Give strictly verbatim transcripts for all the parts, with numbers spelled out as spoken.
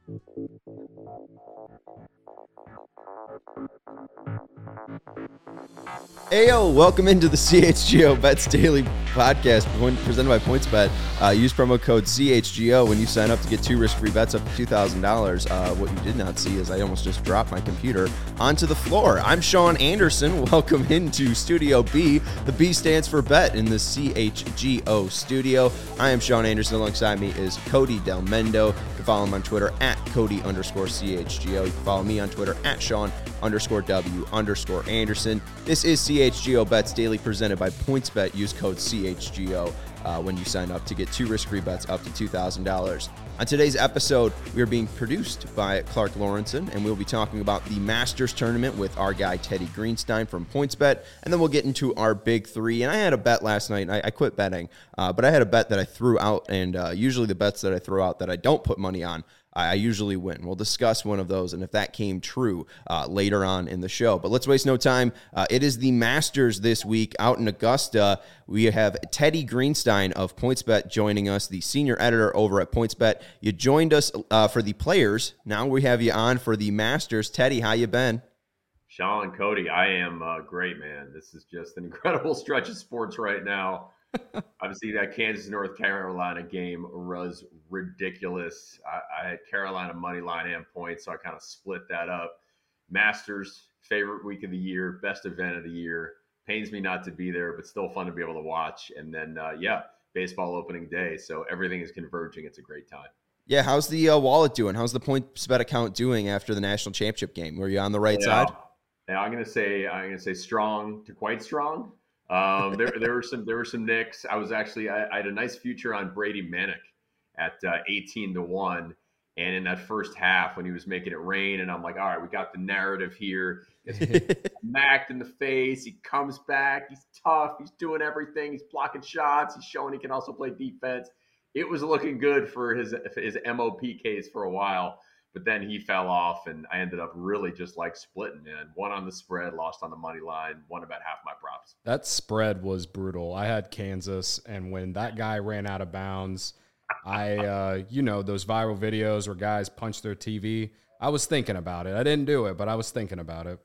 Ayo, welcome into the C H G O Bets Daily Podcast presented by PointsBet. Uh, use promo code C H G O when you sign up to get two risk-free bets up to two thousand dollars. Uh, what you did not see is I almost just dropped my computer onto the floor. I'm Sean Anderson. Welcome into Studio B. The B stands for bet in the C H G O studio. I am Sean Anderson. Alongside me is Cody Del Mendo. You can follow him on Twitter at Cody underscore C H G O. You can follow me on Twitter at Sean underscore W underscore Anderson. This is C H G O Bets Daily presented by PointsBet. Use code C H G O uh, when you sign up to get two risk-free bets up to two thousand dollars. On today's episode, we are being produced by Clark Lawrenson, and we'll be talking about the Masters tournament with our guy Teddy Greenstein from PointsBet, and then we'll get into our big three. And I had a bet last night, and I, I quit betting, uh, but I had a bet that I threw out, and uh, usually the bets that I throw out that I don't put money on, I usually win. We'll discuss one of those and if that came true uh, later on in the show. But let's waste no time. Uh, it is the Masters this week out in Augusta. We have Teddy Greenstein of PointsBet joining us, the senior editor over at PointsBet. You joined us uh, for the Players. Now we have you on for the Masters. Teddy, how you been? Sean, Cody, I am uh, great, man. This is just an incredible stretch of sports right now. Obviously, that Kansas-North Carolina game was ridiculous. I, I had Carolina money line and points, so I kind of split that up. Masters, favorite week of the year, best event of the year. Pains me not to be there, but still fun to be able to watch. And then, uh, yeah, baseball opening day, so everything is converging. It's a great time. Yeah, how's the uh, wallet doing? How's the PointsBet account doing after the national championship game? Were you on the right yeah. side? Yeah, I'm gonna say I'm gonna say strong to quite strong. Um, there, there were some, there were some nicks. I was actually, I, I had a nice future on Brady Manick at uh, eighteen to one. And in that first half when he was making it rain, and I'm like, all right, we got the narrative here. It's smacked in the face. He comes back. He's tough. He's doing everything. He's blocking shots. He's showing he can also play defense. It was looking good for his, his M O P case for a while. But then he fell off, and I ended up really just like splitting, man. One on the spread, lost on the money line, won about half my props. That spread was brutal. I had Kansas, and when that guy ran out of bounds, I, uh, you know, those viral videos where guys punch their T V, I was thinking about it. I didn't do it, but I was thinking about it.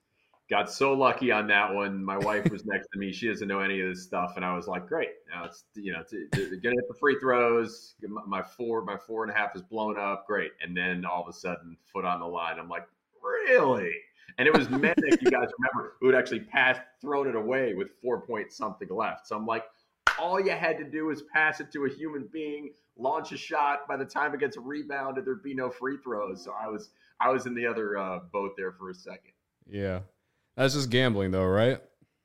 Got so lucky on that one. My wife was next to me. She doesn't know any of this stuff. And I was like, great. Now it's, you know, to, to, to get hit the free throws. My four, my four and a half is blown up. Great. And then all of a sudden, foot on the line. I'm like, really? And it was Manick, you guys remember, who had actually passed, thrown it away with four point something left. So I'm like, all you had to do is pass it to a human being, launch a shot. By the time it gets rebounded, there'd be no free throws. So I was, I was in the other uh, boat there for a second. Yeah. That's just gambling, though, right?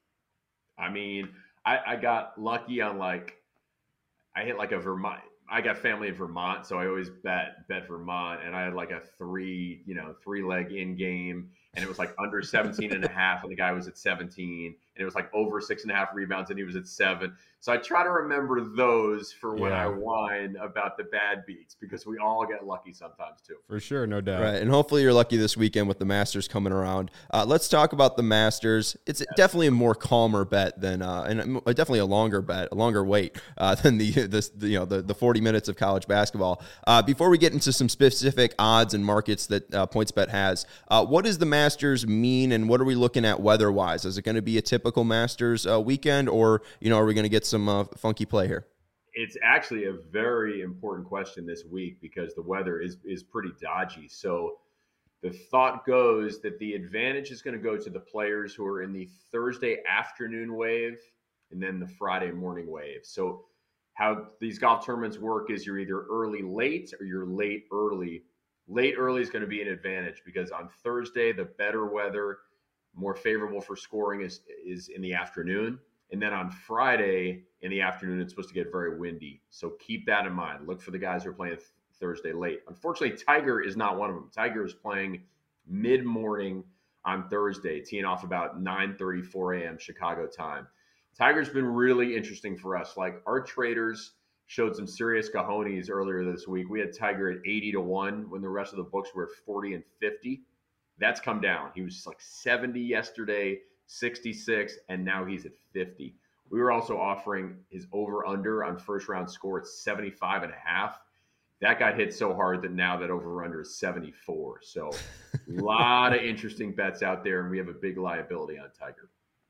I mean, I, I got lucky on like, I hit like a Vermont. I got family in Vermont, so I always bet bet Vermont, and I had like a three, you know, three leg in game, and it was like under seventeen and a half, and the guy was at seventeen, and it was like over six and a half rebounds, and he was at seven. So I try to remember those for when Yeah. I whine about the bad beats, because we all get lucky sometimes too. For sure, no doubt. Right, and hopefully you're lucky this weekend with the Masters coming around. Uh, let's talk about the Masters. It's yes. definitely a more calmer bet than, uh, and definitely a longer bet, a longer wait uh, than the, the, the you know the, the forty minutes of college basketball. Uh, before we get into some specific odds and markets that uh, PointsBet has, uh, what does the Masters mean, and what are we looking at weather-wise? Is it going to be a typical Masters uh, weekend, or you know, are we going to get some uh, funky play here? It's actually a very important question this week because the weather is is pretty dodgy. So the thought goes that the advantage is going to go to the players who are in the Thursday afternoon wave and then the Friday morning wave. So how these golf tournaments work is you're either early late or you're late early. Late early is going to be an advantage because on Thursday, the better weather, more favorable for scoring is is in the afternoon. And then on Friday in the afternoon, it's supposed to get very windy. So keep that in mind. Look for the guys who are playing th- Thursday late. Unfortunately, Tiger is not one of them. Tiger is playing mid-morning on Thursday, teeing off about nine thirty-four a.m. Chicago time. Tiger's been really interesting for us. Like, our traders showed some serious cojones earlier this week. We had Tiger at eighty to one when the rest of the books were at forty and fifty. That's come down. He was like seventy yesterday, sixty-six, and now he's at fifty. We were also offering his over-under on first-round score at seventy-five and a half. that got hit so hard that now that over-under is seventy-four. So a lot of interesting bets out there, and we have a big liability on Tiger.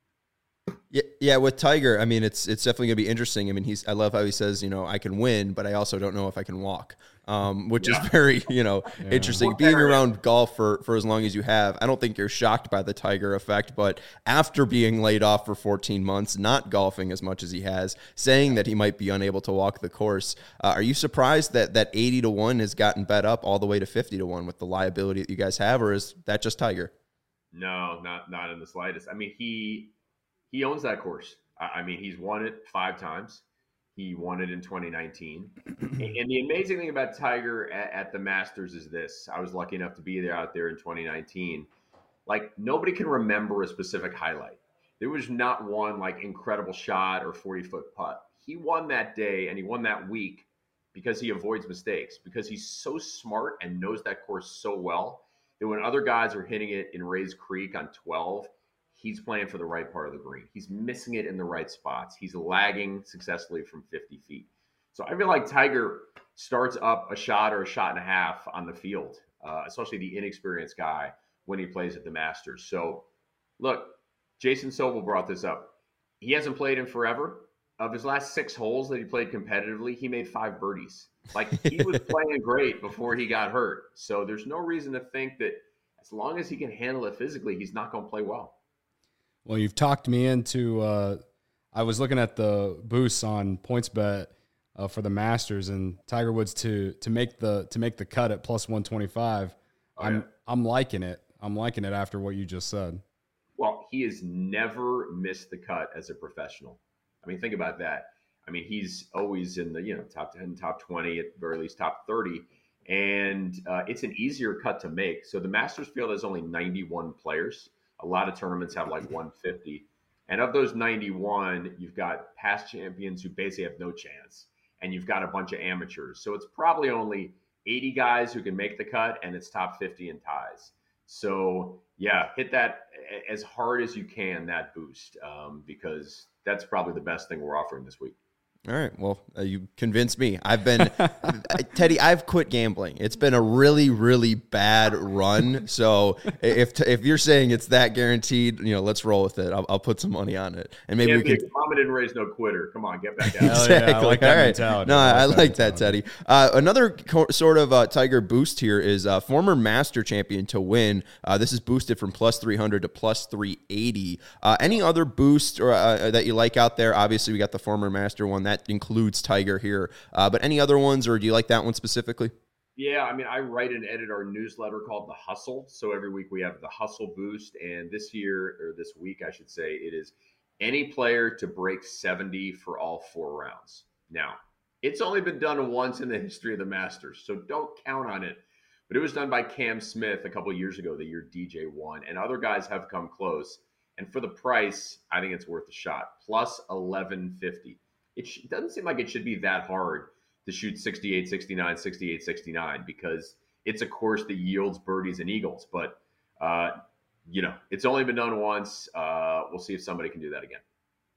Yeah, yeah. With Tiger, I mean, it's it's definitely gonna be interesting. I mean, he's I love how he says, you know, I can win, but I also don't know if I can walk, um, which yeah. is very, you know, yeah. interesting. Well, being around golf for for as long as you have, I don't think you're shocked by the Tiger effect. But after being laid off for fourteen months, not golfing as much as he has, saying that he might be unable to walk the course, uh, are you surprised that that eighty to one has gotten bet up all the way to fifty to one with the liability that you guys have, or is that just Tiger? No, not not in the slightest. I mean, he. He owns that course. I mean, he's won it five times. He won it in twenty nineteen. And the amazing thing about Tiger at, at the Masters is this. I was lucky enough to be there out there in twenty nineteen. Like, nobody can remember a specific highlight. There was not one, like, incredible shot or forty-foot putt. He won that day, and he won that week because he avoids mistakes, because he's so smart and knows that course so well that when other guys are hitting it in Rays Creek on twelve, he's playing for the right part of the green. He's missing it in the right spots. He's lagging successfully from fifty feet. So I feel like Tiger starts up a shot or a shot and a half on the field, uh, especially the inexperienced guy when he plays at the Masters. So look, Jason Sobel brought this up. He hasn't played in forever. Of his last six holes that he played competitively, he made five birdies. Like, he was playing great before he got hurt. So there's no reason to think that as long as he can handle it physically, he's not going to play well. Well, you've talked me into uh, – I was looking at the boosts on PointsBet uh, for the Masters, and Tiger Woods to to make the to make the cut at plus one twenty-five. Oh, I'm yeah. I'm liking it. I'm liking it after what you just said. Well, he has never missed the cut as a professional. I mean, think about that. I mean, he's always in the, you know, top ten, top twenty, at the very least top thirty, and uh, it's an easier cut to make. So the Masters field has only ninety-one players. A lot of tournaments have like one fifty. And of those ninety-one, you've got past champions who basically have no chance. And you've got a bunch of amateurs. So it's probably only eighty guys who can make the cut, and it's top fifty in ties. So, yeah, hit that as hard as you can, that boost, um, because that's probably the best thing we're offering this week. All right. Well, uh, you convinced me. I've been, Teddy, I've quit gambling. It's been a really, really bad run. So if if you're saying it's that guaranteed, you know, let's roll with it. I'll, I'll put some money on it. And maybe yeah, we can. Mama didn't raise no quitter. Come on, get back out. Exactly. Yeah, I like that All right. mentality. No, I like, I like that, that, Teddy. Uh, another co- sort of uh, Tiger boost here is uh, former Master champion to win. Uh, this is boosted from plus three hundred to plus three eighty. Uh, any other boost or uh, that you like out there? Obviously, we got the former Master one. That includes Tiger here. Uh, but any other ones, or do you like that one specifically? Yeah, I mean, I write and edit our newsletter called The Hustle. So every week we have the Hustle Boost. And this year, or this week, I should say, it is any player to break seventy for all four rounds. Now, it's only been done once in the history of the Masters, so don't count on it. But it was done by Cam Smith a couple of years ago, the year D J won. And other guys have come close. And for the price, I think it's worth a shot. Plus eleven fifty. It sh- doesn't seem like it should be that hard to shoot sixty-eight, sixty-nine, sixty-eight, sixty-nine, because it's a course that yields birdies and eagles. But, uh, you know, it's only been done once. Uh, we'll see if somebody can do that again.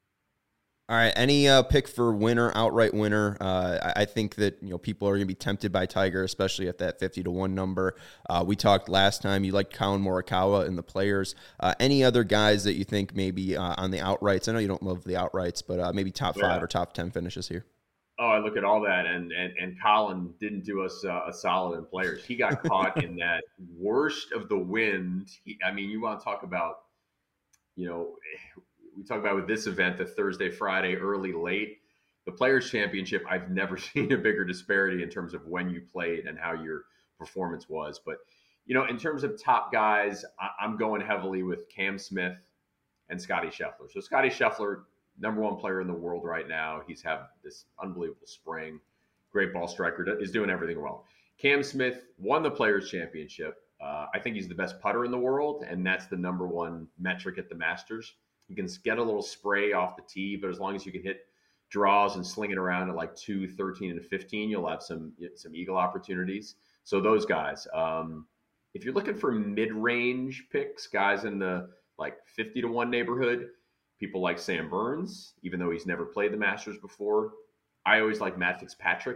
All right. Any uh, pick for winner, outright winner? Uh, I, I think that, you know, people are going to be tempted by Tiger, especially at that fifty to one number. Uh, we talked last time. You liked Colin Morikawa in the players. Uh, any other guys that you think maybe uh, on the outrights? I know you don't love the outrights, but uh, maybe top yeah. five or top ten finishes here. Oh, I look at all that, and and and Colin didn't do us uh, a solid in players. He got caught in that worst of the wind. He, I mean, you want to talk about, you know, we talk about with this event, the Thursday, Friday, early, late. The Players' Championship, I've never seen a bigger disparity in terms of when you played and how your performance was. But, you know, in terms of top guys, I, I'm going heavily with Cam Smith and Scotty Scheffler. So Scotty Scheffler, number one player in the world right now. He's had this unbelievable spring. Great ball striker, is doing everything well. Cam Smith won the Players' Championship. Uh, I think he's the best putter in the world, and that's the number one metric at the Masters. You can get a little spray off the tee, but as long as you can hit draws and sling it around at like two, thirteen, and fifteen, you'll have some some eagle opportunities. So those guys. Um, if you're looking for mid-range picks, guys in the like fifty to one neighborhood, people like Sam Burns, even though he's never played the Masters before. I always like Matt Fitzpatrick.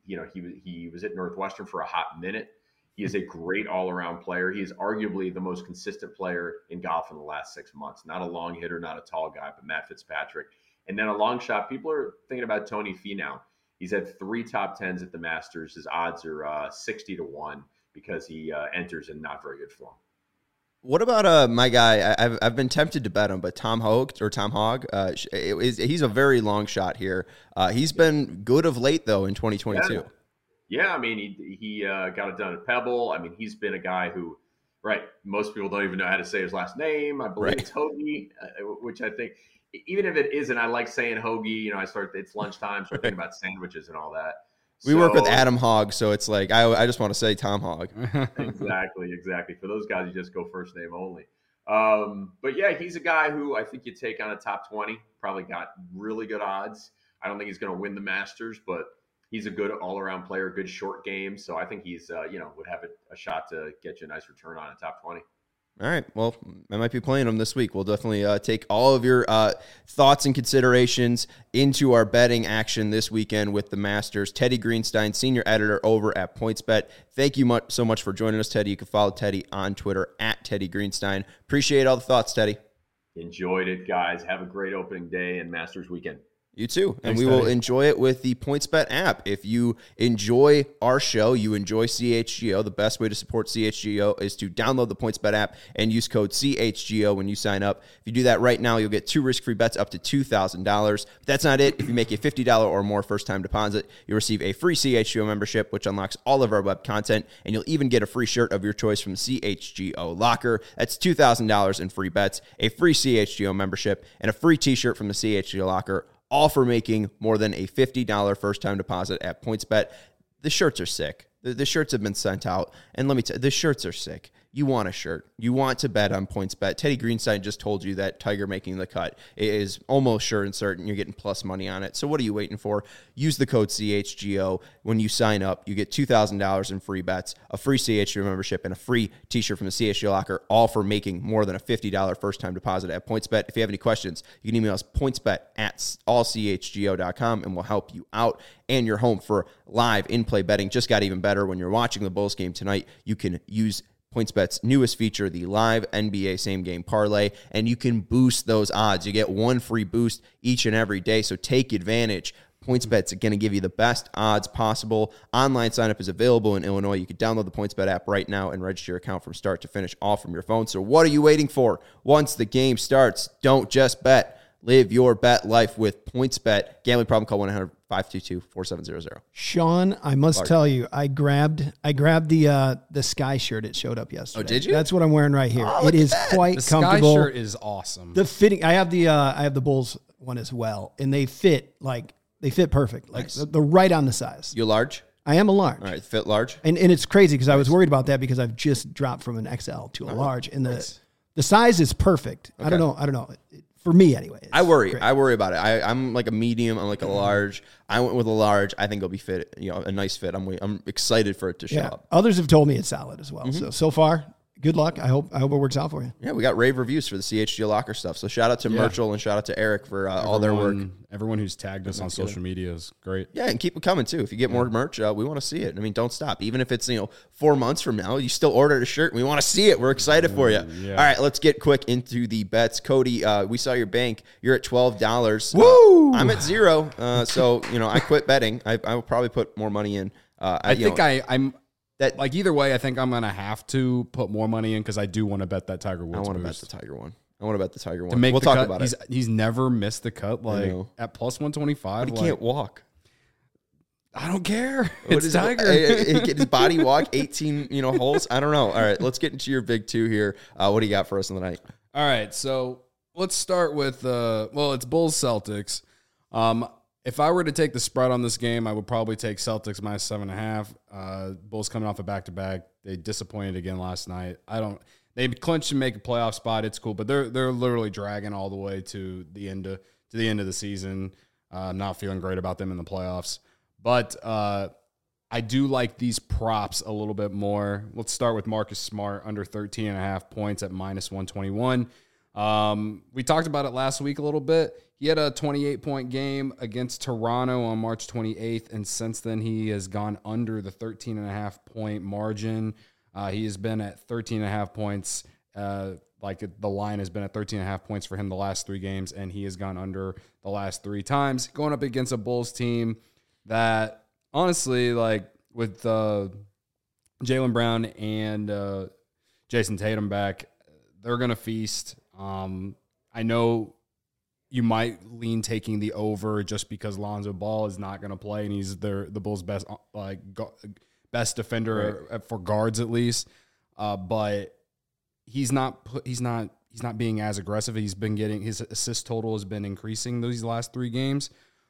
you know, he he was at Northwestern for a hot minute. He is a great all-around player. He is arguably the most consistent player in golf in the last six months. Not a long hitter, not a tall guy, but Matt Fitzpatrick. And then a long shot. People are thinking about Tony Finau. He's had three top tens at the Masters. His odds are uh, sixty to one because he uh, enters in not very good form. What about uh my guy? I, I've I've been tempted to bet him, but Tom Hogue or Tom Hogg, uh, is he's a very long shot here. Uh, he's been good of late though in twenty twenty-two. Yeah, yeah I mean he he uh, got it done at Pebble. I mean he's been a guy who, right? Most people don't even know how to say his last name. I believe right. it's Hoagie, uh, which I think even if it isn't, I like saying Hoagie. You know, I start it's lunchtime, so I think about sandwiches and all that. We so, work with Adam Hogg, so it's like I, I just want to say Tom Hogg. exactly, exactly. For those guys, you just go first name only. Um, but yeah, he's a guy who I think you take on a top twenty. Probably got really good odds. I don't think he's going to win the Masters, but he's a good all-around player, good short game. So I think he's uh, you know would have a, a shot to get you a nice return on a top twenty. All right. Well, I might be playing them this week. We'll definitely uh, take all of your uh, thoughts and considerations into our betting action this weekend with the Masters. Teddy Greenstein, senior editor over at PointsBet. Thank you much, so much for joining us, Teddy. You can follow Teddy on Twitter at Teddy Greenstein. Appreciate all the thoughts, Teddy. Enjoyed it, guys. Have a great opening day and Masters weekend. You too. And Thanks, we Teddy. will enjoy it with the PointsBet app. If you enjoy our show, you enjoy C H G O, the best way to support C H G O is to download the PointsBet app and use code C H G O when you sign up. If you do that right now, you'll get two risk-free bets up to two thousand dollars. But that's not it. If you make a fifty dollars or more first-time deposit, you'll receive a free C H G O membership, which unlocks all of our web content, and you'll even get a free shirt of your choice from C H G O Locker. That's two thousand dollars in free bets, a free C H G O membership, and a free t-shirt from the C H G O Locker, all for making more than a fifty dollars first-time deposit at PointsBet. The shirts are sick. The, the shirts have been sent out. And let me tell you, the shirts are sick. You want a shirt. You want to bet on PointsBet. Teddy Greenstein just told you that Tiger making the cut is almost sure and certain. You're getting plus money on it. So what are you waiting for? Use the code C H G O. When you sign up, you get two thousand dollars in free bets, a free C H G O membership, and a free t-shirt from the C H G O Locker, all for making more than a fifty dollars first-time deposit at PointsBet. If you have any questions, you can email us pointsbet at all c h g o dot com, and we'll help you out. And you're home for live in-play betting. Just got even better when you're watching the Bulls game tonight. You can use PointsBet's newest feature, the live N B A same-game parlay, and you can boost those odds. You get one free boost each and every day, so take advantage. PointsBet's going to give you the best odds possible. Online sign-up is available in Illinois. You can download the PointsBet app right now and register your account from start to finish, all from your phone. So what are you waiting for? Once the game starts, don't just bet. Live your bet life with PointsBet. Gambling problem, call one eight hundred five two two four seven zero zero. Sean, I must Lark. tell you, I grabbed I grabbed the uh, the Sky shirt. It showed up yesterday. Oh, did you? That's what I'm wearing right here. Oh, it is that. quite The Sky comfortable. shirt is awesome. The fitting. I have the uh, I have the Bulls one as well, and they fit like they fit perfect. Like Nice. they're, they're right on the size. You large? I am a large. All right, fit large. And and it's crazy because I was worried about that because I've just dropped from an X L to a large, and the nice. the size is perfect. I don't Okay. know. I don't know. It- For me, anyway. It's I worry. great. I worry about it. I, I'm like a medium. I'm like a large. I went with a large. I think it'll be fit. You know, a nice fit. I'm I'm excited for it to show yeah. up. Others have told me it's solid as Mm-hmm. well. So so far, good luck. I hope I hope it works out for you. Yeah, we got rave reviews for the C H G O Locker stuff. So shout out to Yeah. Merchel and shout out to Eric for uh, all their work. Everyone- Everyone who's tagged us on social media is great. Yeah, and keep it coming too. If you get more merch, uh, we want to see it. I mean, don't stop. Even if it's you know four months from now, you still ordered a shirt. And we want to see it. We're excited for you. Yeah. All right, let's get quick into the bets. Cody, uh, we saw your bank. You're at twelve dollars. Woo! Uh, I'm at zero. Uh, so you know, I quit betting. I, I will probably put more money in. Uh, I you think know, I, I'm that like either way. I think I'm gonna have to put more money in because I do want to bet that Tiger Woods. I want to bet boost. the Tiger one. I want to bet the Tiger one. to make we'll the talk cut. about he's, it. He's never missed the cut. Like know. at plus one twenty five. But he like, can't walk. I don't care. What It's is it? Tiger. Uh, uh, Get his body walk eighteen, you know, holes. I don't know. All right, let's get into your big two here. Uh, what do you got for us on the night? All right, so let's start with uh, well, it's Bulls Celtics. Um, if I were to take the spread on this game, I would probably take Celtics minus seven and a half. Uh, Bulls coming off a back to back. They disappointed again last night. I don't. They clinched and make a playoff spot. It's cool, but they're they're literally dragging all the way to the end of to the end of the season. Uh, I'm not feeling great about them in the playoffs, but uh, I do like these props a little bit more. Let's start with Marcus Smart under thirteen and a half points at minus one twenty-one. Um, we talked about it last week a little bit. He had a twenty-eight point game against Toronto on March twenty-eighth, and since then he has gone under the thirteen and a half point margin. Uh, he has been at thirteen and a half points. Uh, like the line has been at thirteen and a half points for him the last three games, and he has gone under the last three times. Going up against a Bulls team that, honestly, like with uh, Jaylen Brown and uh, Jason Tatum back, they're going to feast. Um, I know you might lean taking the over just because Lonzo Ball is not going to play, and he's their the Bulls' best like best defender right. for guards at least. Uh, but he's not he's not he's not being as aggressive. He's been getting his assist total has been increasing these last three games.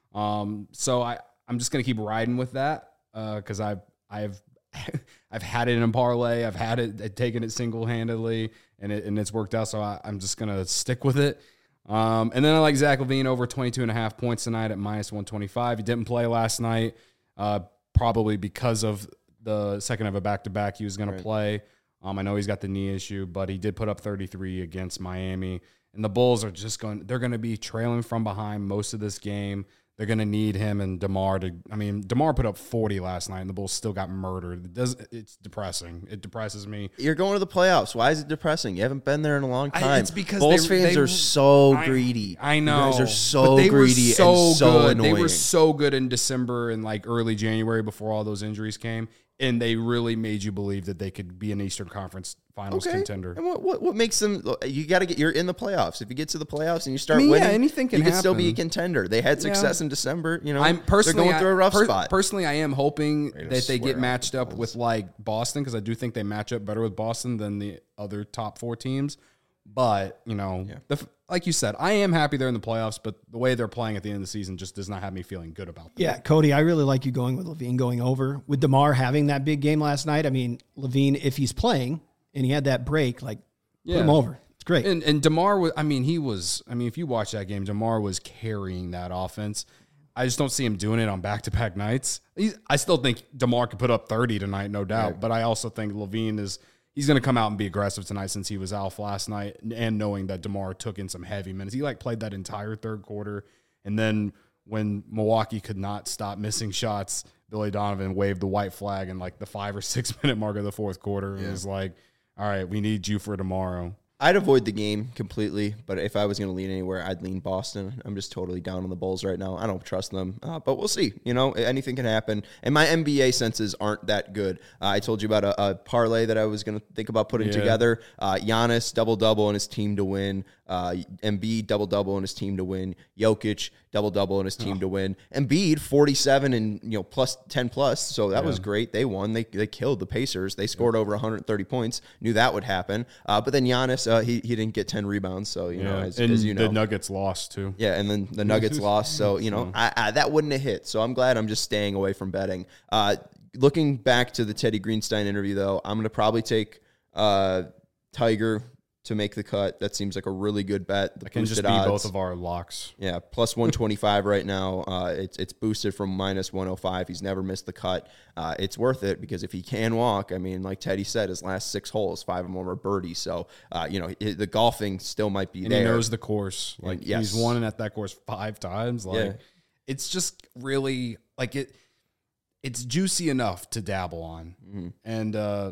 Um, so I I'm just going to keep riding with that because uh, I've I've I've had it in a parlay. I've had it taken it single handedly, and it and it's worked out. So I, I'm just going to stick with it. Um, and then I like Zach LaVine over twenty-two and a half points tonight at minus one twenty-five. He didn't play last night, uh, probably because of the second of a back-to-back he was going right. to play. Um, I know he's got the knee issue, but he did put up thirty-three against Miami. And the Bulls are just going – they're going to be trailing from behind most of this game. They're going to need him and DeMar to – I mean, DeMar put up forty last night, and the Bulls still got murdered. It does, it's depressing. It depresses me. You're going to the playoffs. Why is it depressing? You haven't been there in a long time. I, it's because Bulls they, fans they, are so I, greedy. I know. You guys are so they greedy were so and so good. annoying. They were so good in December and like early January before all those injuries came, and they really made you believe that they could be an Eastern Conference Finals okay. contender. And what, what what makes them? You got to get. You're in the playoffs. If you get to the playoffs and you start I mean, winning, yeah, anything can you can happen. still be a contender. They had success Yeah. in December. You know, I'm personally they're going through a rough I, per, spot. Personally, I am hoping Ready to that they get swear matched out up the with like Boston because I do think they match up better with Boston than the other top four teams. But you know, Yeah. the, like you said, I am happy they're in the playoffs. But the way they're playing at the end of the season just does not have me feeling good about them. Yeah, Cody, I really like you going with LaVine going over. With DeMar having that big game last night, I mean, LaVine, if he's playing and he had that break, like, Yeah. put him over. It's great. And and DeMar was, I mean, he was, I mean, if you watch that game, DeMar was carrying that offense. I just don't see him doing it on back-to-back nights. He's, I still think DeMar could put up thirty tonight, no doubt. Right. But I also think LaVine is, he's going to come out and be aggressive tonight since he was off last night, and knowing that DeMar took in some heavy minutes. He like played that entire third quarter, and then when Milwaukee could not stop missing shots, Billy Donovan waved the white flag in like the five or six minute mark of the fourth quarter, and Yeah. was like, "All right, we need you for tomorrow." I'd avoid the game completely, but if I was going to lean anywhere, I'd lean Boston. I'm just totally down on the Bulls right now. I don't trust them, uh, but we'll see. You know, anything can happen. And my N B A senses aren't that good. Uh, I told you about a, a parlay that I was going to think about putting Yeah. together. Uh, Giannis, double-double, and his team to win. Uh, Embiid, double-double, and his team to win. Jokic, double-double, and his team oh. to win. Embiid, forty-seven and, you know, plus ten plus, so that yeah. was great. They won. They they killed the Pacers. They scored yeah. over one hundred thirty points. Knew that would happen. Uh, but then Giannis, uh, he, he didn't get ten rebounds, so, you yeah. know, as, and as you know. the Nuggets lost, too. Yeah, and then the Nuggets lost, so, you know, I, I, that wouldn't have hit. So I'm glad I'm just staying away from betting. Uh, looking back to the Teddy Greenstein interview, though, I'm going to probably take uh, Tiger to make the cut. That seems like a really good bet. The that can just be odds. both of our locks. Yeah, plus one twenty-five right now. Uh, it's it's boosted from minus one oh five. He's never missed the cut. Uh, it's worth it because if he can walk, I mean, like Teddy said, his last six holes, five of them were birdies. So, uh, you know, it, the golfing still might be and there. he knows the course. Like, and, yes. he's won at that course five times. Like, yeah. it's just really, like, it. it's juicy enough to dabble on. Mm-hmm. And, uh,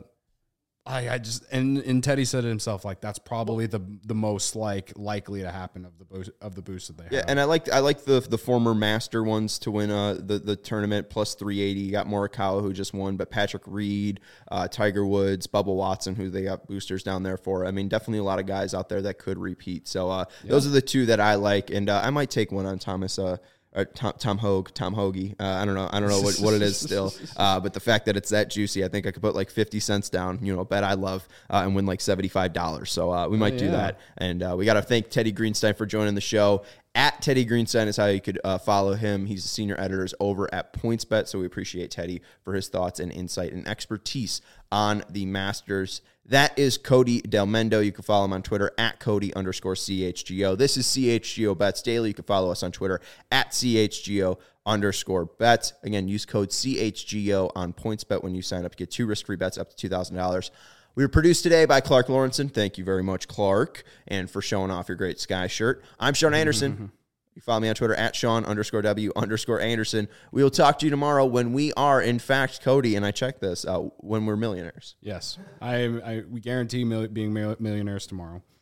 I, I just and, and Teddy said it himself, like that's probably the the most like likely to happen of the boost of the boost that they have. Yeah, and I like I like the the former master ones to win uh the, the tournament plus three eighty. You got Morikawa who just won, but Patrick Reed, uh, Tiger Woods, Bubba Watson, who they got boosters down there for. I mean, definitely a lot of guys out there that could repeat. So uh, yeah. those are the two that I like, and uh, I might take one on Thomas. Uh, Or Tom, Tom Hogue, Tom Hoagie. Uh, I don't know. I don't know what, what it is still. Uh, but the fact that it's that juicy, I think I could put like fifty cents down, you know, a bet I love, uh, and win like seventy-five dollars. So uh, we might oh, yeah. do that. And uh, we got to thank Teddy Greenstein for joining the show. At Teddy Greenstein is how you could uh, follow him. He's the senior editor over at PointsBet. So we appreciate Teddy for his thoughts and insight and expertise on the Masters. That is Cody Del Mendo. You can follow him on Twitter at Cody underscore C H G O. This is C H G O Bets Daily. You can follow us on Twitter at C H G O underscore bets. Again, use code C H G O on PointsBet when you sign up to get two risk-free bets up to two thousand dollars. We were produced today by Clark Lawrenson. Thank you very much, Clark, and for showing off your great Sky shirt. I'm Sean Anderson. You follow me on Twitter at Sean underscore W underscore Anderson. We will talk to you tomorrow when we are, in fact, Cody, and I checked this, uh, when we're millionaires. Yes. I, I we guarantee mil- being mil- millionaires tomorrow.